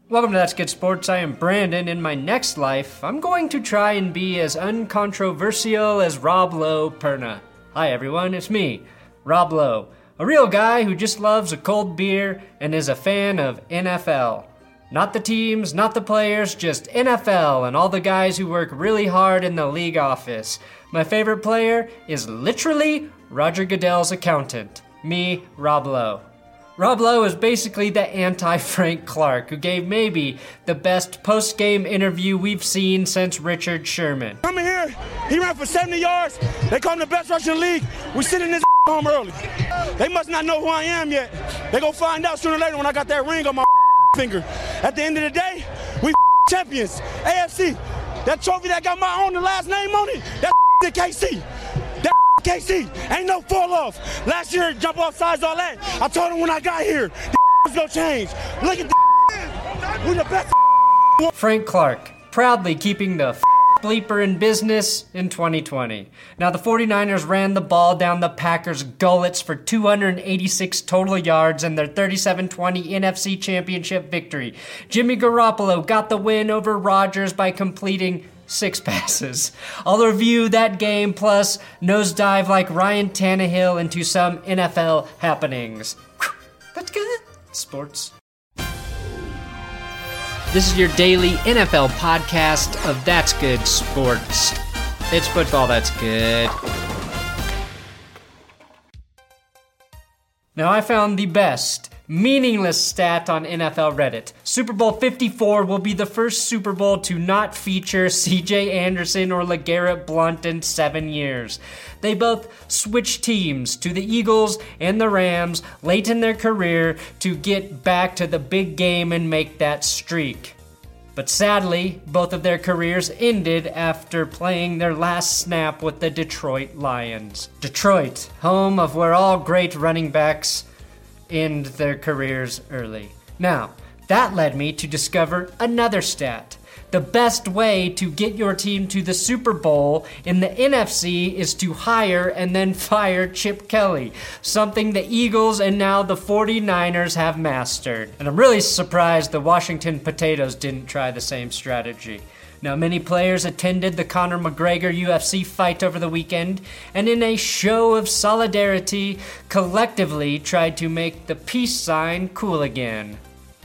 Welcome to That's Good Sports. I am Brandon. In my next life, I'm going to try and be as uncontroversial as Rob Lowe Perna. Hi everyone, it's me, Rob Lowe, a real guy who just loves a cold beer and is a fan of NFL. Not the teams, not the players, just NFL and all the guys who work really hard in the league office. My favorite player is literally Roger Goodell's accountant, me, Rob Lowe. Rob Lowe is basically the anti-Frank Clark, who gave maybe the best post-game interview we've seen since Richard Sherman. Coming here, he ran for 70 yards. They call him the best rusher in the league. We sitting this home early. They must not know who I am yet. They gonna find out sooner or later when I got that ring on my finger. At the end of the day, we champions. AFC, that trophy that got my own the last name on it, that's the KC. KC, ain't no fall off. Last year, jump off sides, all that. I told him when I got here, was gonna change. Look at we the best. Frank Clark, proudly keeping the bleeper in business in 2020. Now, the 49ers ran the ball down the Packers' gullets for 286 total yards in their 37-20 NFC Championship victory. Jimmy Garoppolo got the win over Rodgers by completing 6 passes. I'll review that game plus nosedive like Ryan Tannehill into some NFL happenings. That's good. Sports. This is your daily NFL podcast of That's Good Sports. It's football that's good. Now I found the best meaningless stat on NFL Reddit. Super Bowl 54 will be the first Super Bowl to not feature C.J. Anderson or LeGarrette Blount in 7 years. They both switched teams to the Eagles and the Rams late in their career to get back to the big game and make that streak. But sadly, both of their careers ended after playing their last snap with the Detroit Lions. Detroit, home of where all great running backs end their careers early. Now, that led me to discover another stat. The best way to get your team to the Super Bowl in the NFC is to hire and then fire Chip Kelly, something the Eagles and now the 49ers have mastered. And I'm really surprised the Washington Potatoes didn't try the same strategy. Now, many players attended the Conor McGregor UFC fight over the weekend, and in a show of solidarity, collectively tried to make the peace sign cool again.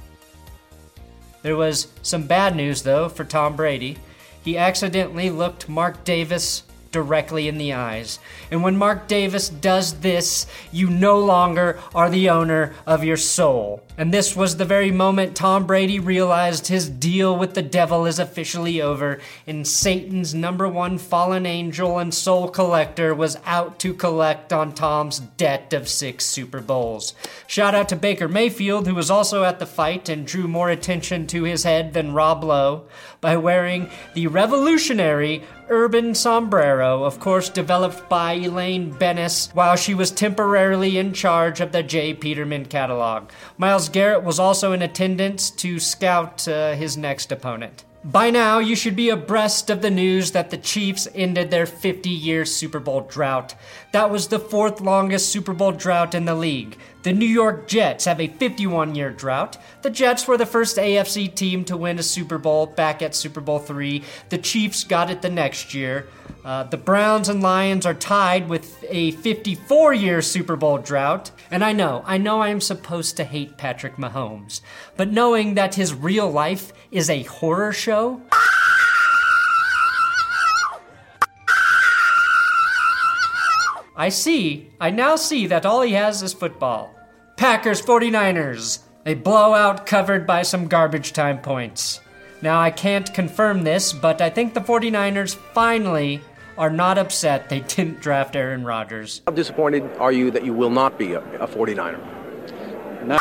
There was some bad news, though, for Tom Brady. He accidentally looked Mark Davis directly in the eyes. And when Mark Davis does this, you no longer are the owner of your soul. And this was the very moment Tom Brady realized his deal with the devil is officially over, and Satan's #1 fallen angel and soul collector was out to collect on Tom's debt of 6 Super Bowls. Shout out to Baker Mayfield, who was also at the fight and drew more attention to his head than Rob Lowe by wearing the revolutionary urban sombrero, of course developed by Elaine Bennis while she was temporarily in charge of the J. Peterman catalog. Myles Garrett was also in attendance to scout his next opponent. By now, you should be abreast of the news that the Chiefs ended their 50-year Super Bowl drought. That was the 4th longest Super Bowl drought in the league. The New York Jets have a 51-year drought. The Jets were the first AFC team to win a Super Bowl back at Super Bowl III. The Chiefs got it the next year. The Browns and Lions are tied with a 54-year Super Bowl drought. And I know I am supposed to hate Patrick Mahomes. But knowing that his real life is a horror show, I now see that all he has is football. Packers 49ers, a blowout covered by some garbage time points. Now, I can't confirm this, but I think the 49ers finally are not upset they didn't draft Aaron Rodgers. How disappointed are you that you will not be a 49er? No.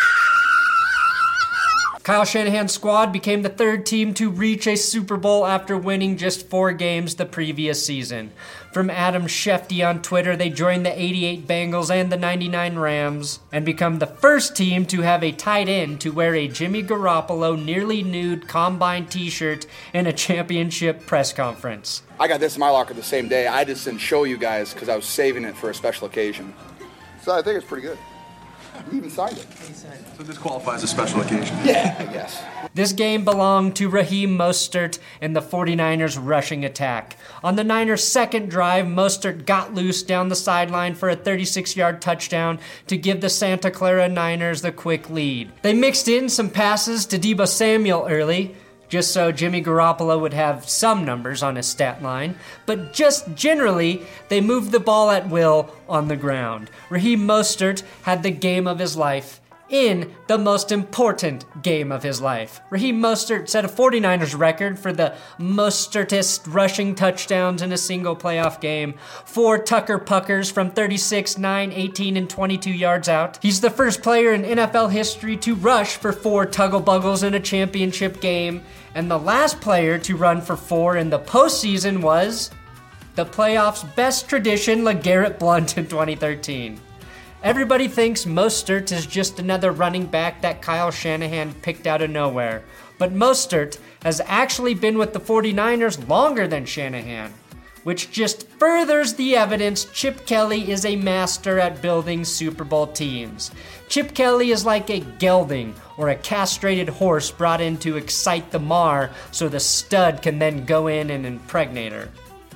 Kyle Shanahan's squad became the 3rd team to reach a Super Bowl after winning just 4 games the previous season. From Adam Schefter on Twitter, they joined the 88 Bengals and the 99 Rams and become the first team to have a tight end to wear a Jimmy Garoppolo nearly nude Combine t-shirt in a championship press conference. I got this in my locker the same day. I just didn't show you guys because I was saving it for a special occasion. So I think it's pretty good. He even signed it. So this qualifies as a special occasion. Yeah, I guess. This game belonged to Raheem Mostert and the 49ers rushing attack. On the Niners' second drive, Mostert got loose down the sideline for a 36-yard touchdown to give the Santa Clara Niners the quick lead. They mixed in some passes to Deebo Samuel early, just so Jimmy Garoppolo would have some numbers on his stat line, but just generally, they moved the ball at will on the ground. Raheem Mostert had the game of his life in the most important game of his life. Raheem Mostert set a 49ers record for the Mostertest rushing touchdowns in a single playoff game. 4 Tucker Puckers from 36, 9, 18, and 22 yards out. He's the first player in NFL history to rush for 4 Tuggle Buggles in a championship game, and the last player to run for 4 in the postseason was the playoffs' best tradition, LeGarrette Blount in 2013. Everybody thinks Mostert is just another running back that Kyle Shanahan picked out of nowhere. But Mostert has actually been with the 49ers longer than Shanahan, which just furthers the evidence Chip Kelly is a master at building Super Bowl teams. Chip Kelly is like a gelding or a castrated horse brought in to excite the mar so the stud can then go in and impregnate her.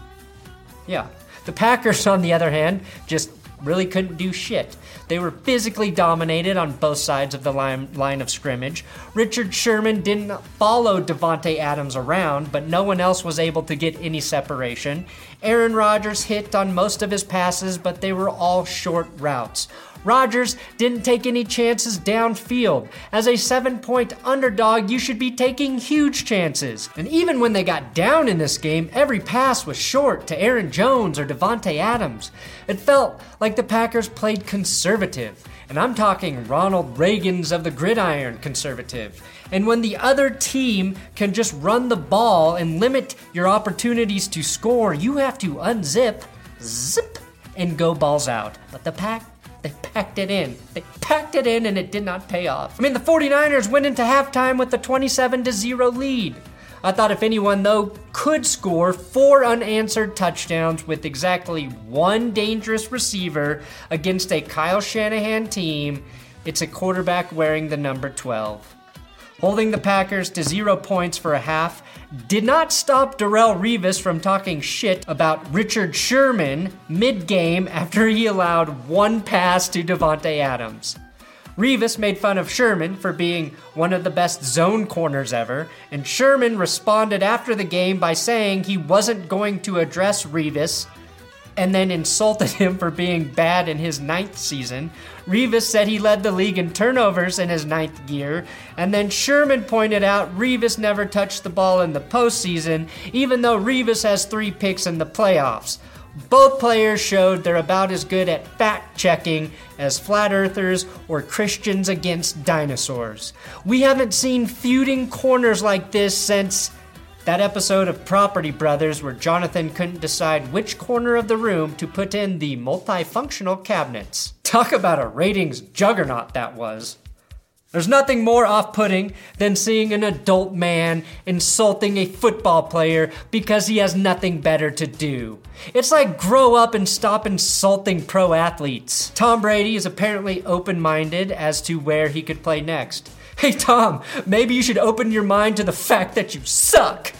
Yeah. The Packers, on the other hand, just really couldn't do shit. They were physically dominated on both sides of the line of scrimmage. Richard Sherman didn't follow Davante Adams around, but no one else was able to get any separation. Aaron Rodgers hit on most of his passes, but they were all short routes. Rodgers didn't take any chances downfield. As a 7-point underdog, you should be taking huge chances. And even when they got down in this game, every pass was short to Aaron Jones or Davante Adams. It felt like the Packers played conservative. And I'm talking Ronald Reagan's of the gridiron conservative. And when the other team can just run the ball and limit your opportunities to score, you have to unzip, zip, and go balls out. But the they packed it in. They packed it in and it did not pay off. I mean, the 49ers went into halftime with a 27-0 lead. I thought if anyone, though, could score 4 unanswered touchdowns with exactly 1 dangerous receiver against a Kyle Shanahan team, it's a quarterback wearing the number 12. Holding the Packers to 0 points for a half did not stop Darrelle Revis from talking shit about Richard Sherman mid-game after he allowed 1 pass to Davante Adams. Revis made fun of Sherman for being one of the best zone corners ever, and Sherman responded after the game by saying he wasn't going to address Revis and then insulted him for being bad in his 9th season. Revis said he led the league in turnovers in his 9th year, and then Sherman pointed out Revis never touched the ball in the postseason, even though Revis has 3 picks in the playoffs. Both players showed they're about as good at fact-checking as flat earthers or Christians against dinosaurs. We haven't seen feuding corners like this since that episode of Property Brothers where Jonathan couldn't decide which corner of the room to put in the multifunctional cabinets. Talk about a ratings juggernaut that was. There's nothing more off-putting than seeing an adult man insulting a football player because he has nothing better to do. It's like grow up and stop insulting pro athletes. Tom Brady is apparently open-minded as to where he could play next. Hey Tom, maybe you should open your mind to the fact that you suck.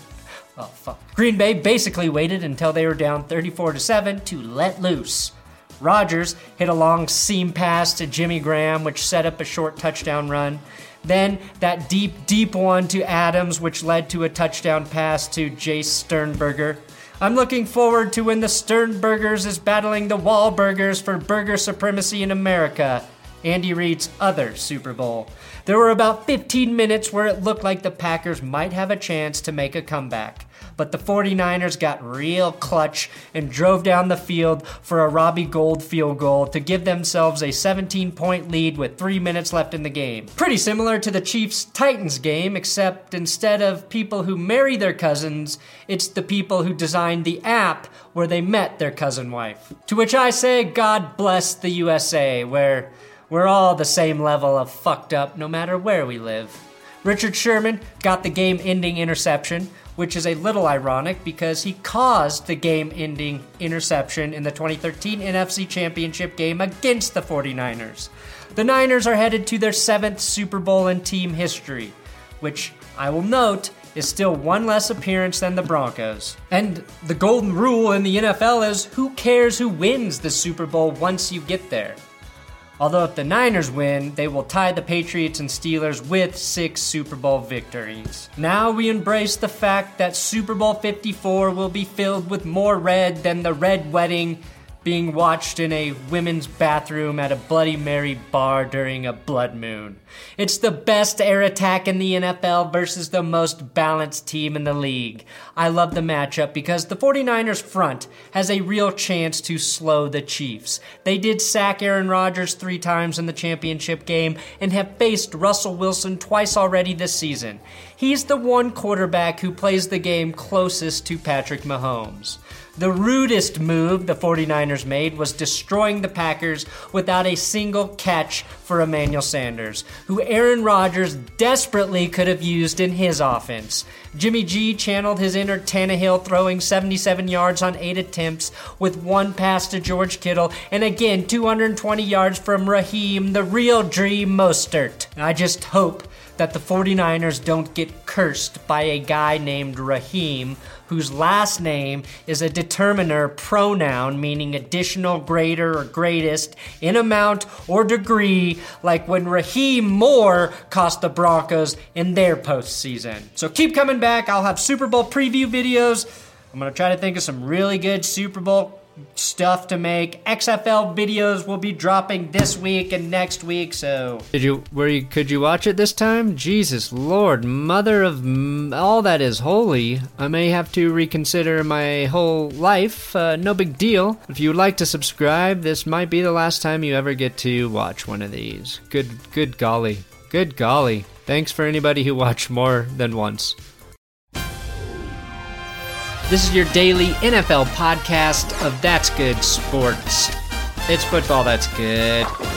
Oh fuck. Green Bay basically waited until they were down 34-7 to let loose. Rodgers hit a long seam pass to Jimmy Graham, which set up a short touchdown run. Then that deep one to Adams, which led to a touchdown pass to Jace Sternberger. I'm looking forward to when the Sternbergers is battling the Wahlburgers for burger supremacy in America, Andy Reid's other Super Bowl. There were about 15 minutes where it looked like the Packers might have a chance to make a comeback. But the 49ers got real clutch and drove down the field for a Robbie Gould field goal to give themselves a 17-point lead with 3 minutes left in the game. Pretty similar to the Chiefs-Titans game, except instead of people who marry their cousins, it's the people who designed the app where they met their cousin wife. To which I say, God bless the USA, where we're all the same level of fucked up no matter where we live. Richard Sherman got the game-ending interception, which is a little ironic because he caused the game-ending interception in the 2013 NFC Championship game against the 49ers. The Niners are headed to their 7th Super Bowl in team history, which I will note is still one less appearance than the Broncos. And the golden rule in the NFL is who cares who wins the Super Bowl once you get there. Although if the Niners win, they will tie the Patriots and Steelers with 6 Super Bowl victories. Now we embrace the fact that Super Bowl 54 will be filled with more red than the red wedding being watched in a women's bathroom at a Bloody Mary bar during a blood moon. It's the best air attack in the NFL versus the most balanced team in the league. I love the matchup because the 49ers front has a real chance to slow the Chiefs. They did sack Aaron Rodgers 3 times in the championship game and have faced Russell Wilson twice already this season. He's the one quarterback who plays the game closest to Patrick Mahomes. The rudest move the 49ers made was destroying the Packers without a single catch for Emmanuel Sanders, who Aaron Rodgers desperately could have used in his offense. Jimmy G channeled his inner Tannehill, throwing 77 yards on 8 attempts with 1 pass to George Kittle, and again 220 yards from Raheem, the real Dream Mostert. I just hope that the 49ers don't get cursed by a guy named Raheem, whose last name is a determiner pronoun meaning additional, greater, or greatest in amount or degree, like when Raheem Moore cost the Broncos in their postseason. So keep coming back. I'll have Super Bowl preview videos. I'm going to try to think of some really good Super Bowl stuff to make. XFL videos will be dropping this week and next week, so could you watch it this time? Jesus Lord, mother of all that is holy. I may have to reconsider my whole life. No big deal. If you would like to subscribe, this might be the last time you ever get to watch one of these. Good golly. Good golly. Thanks for anybody who watched more than once. This is your daily NFL podcast of That's Good Sports. It's football that's good.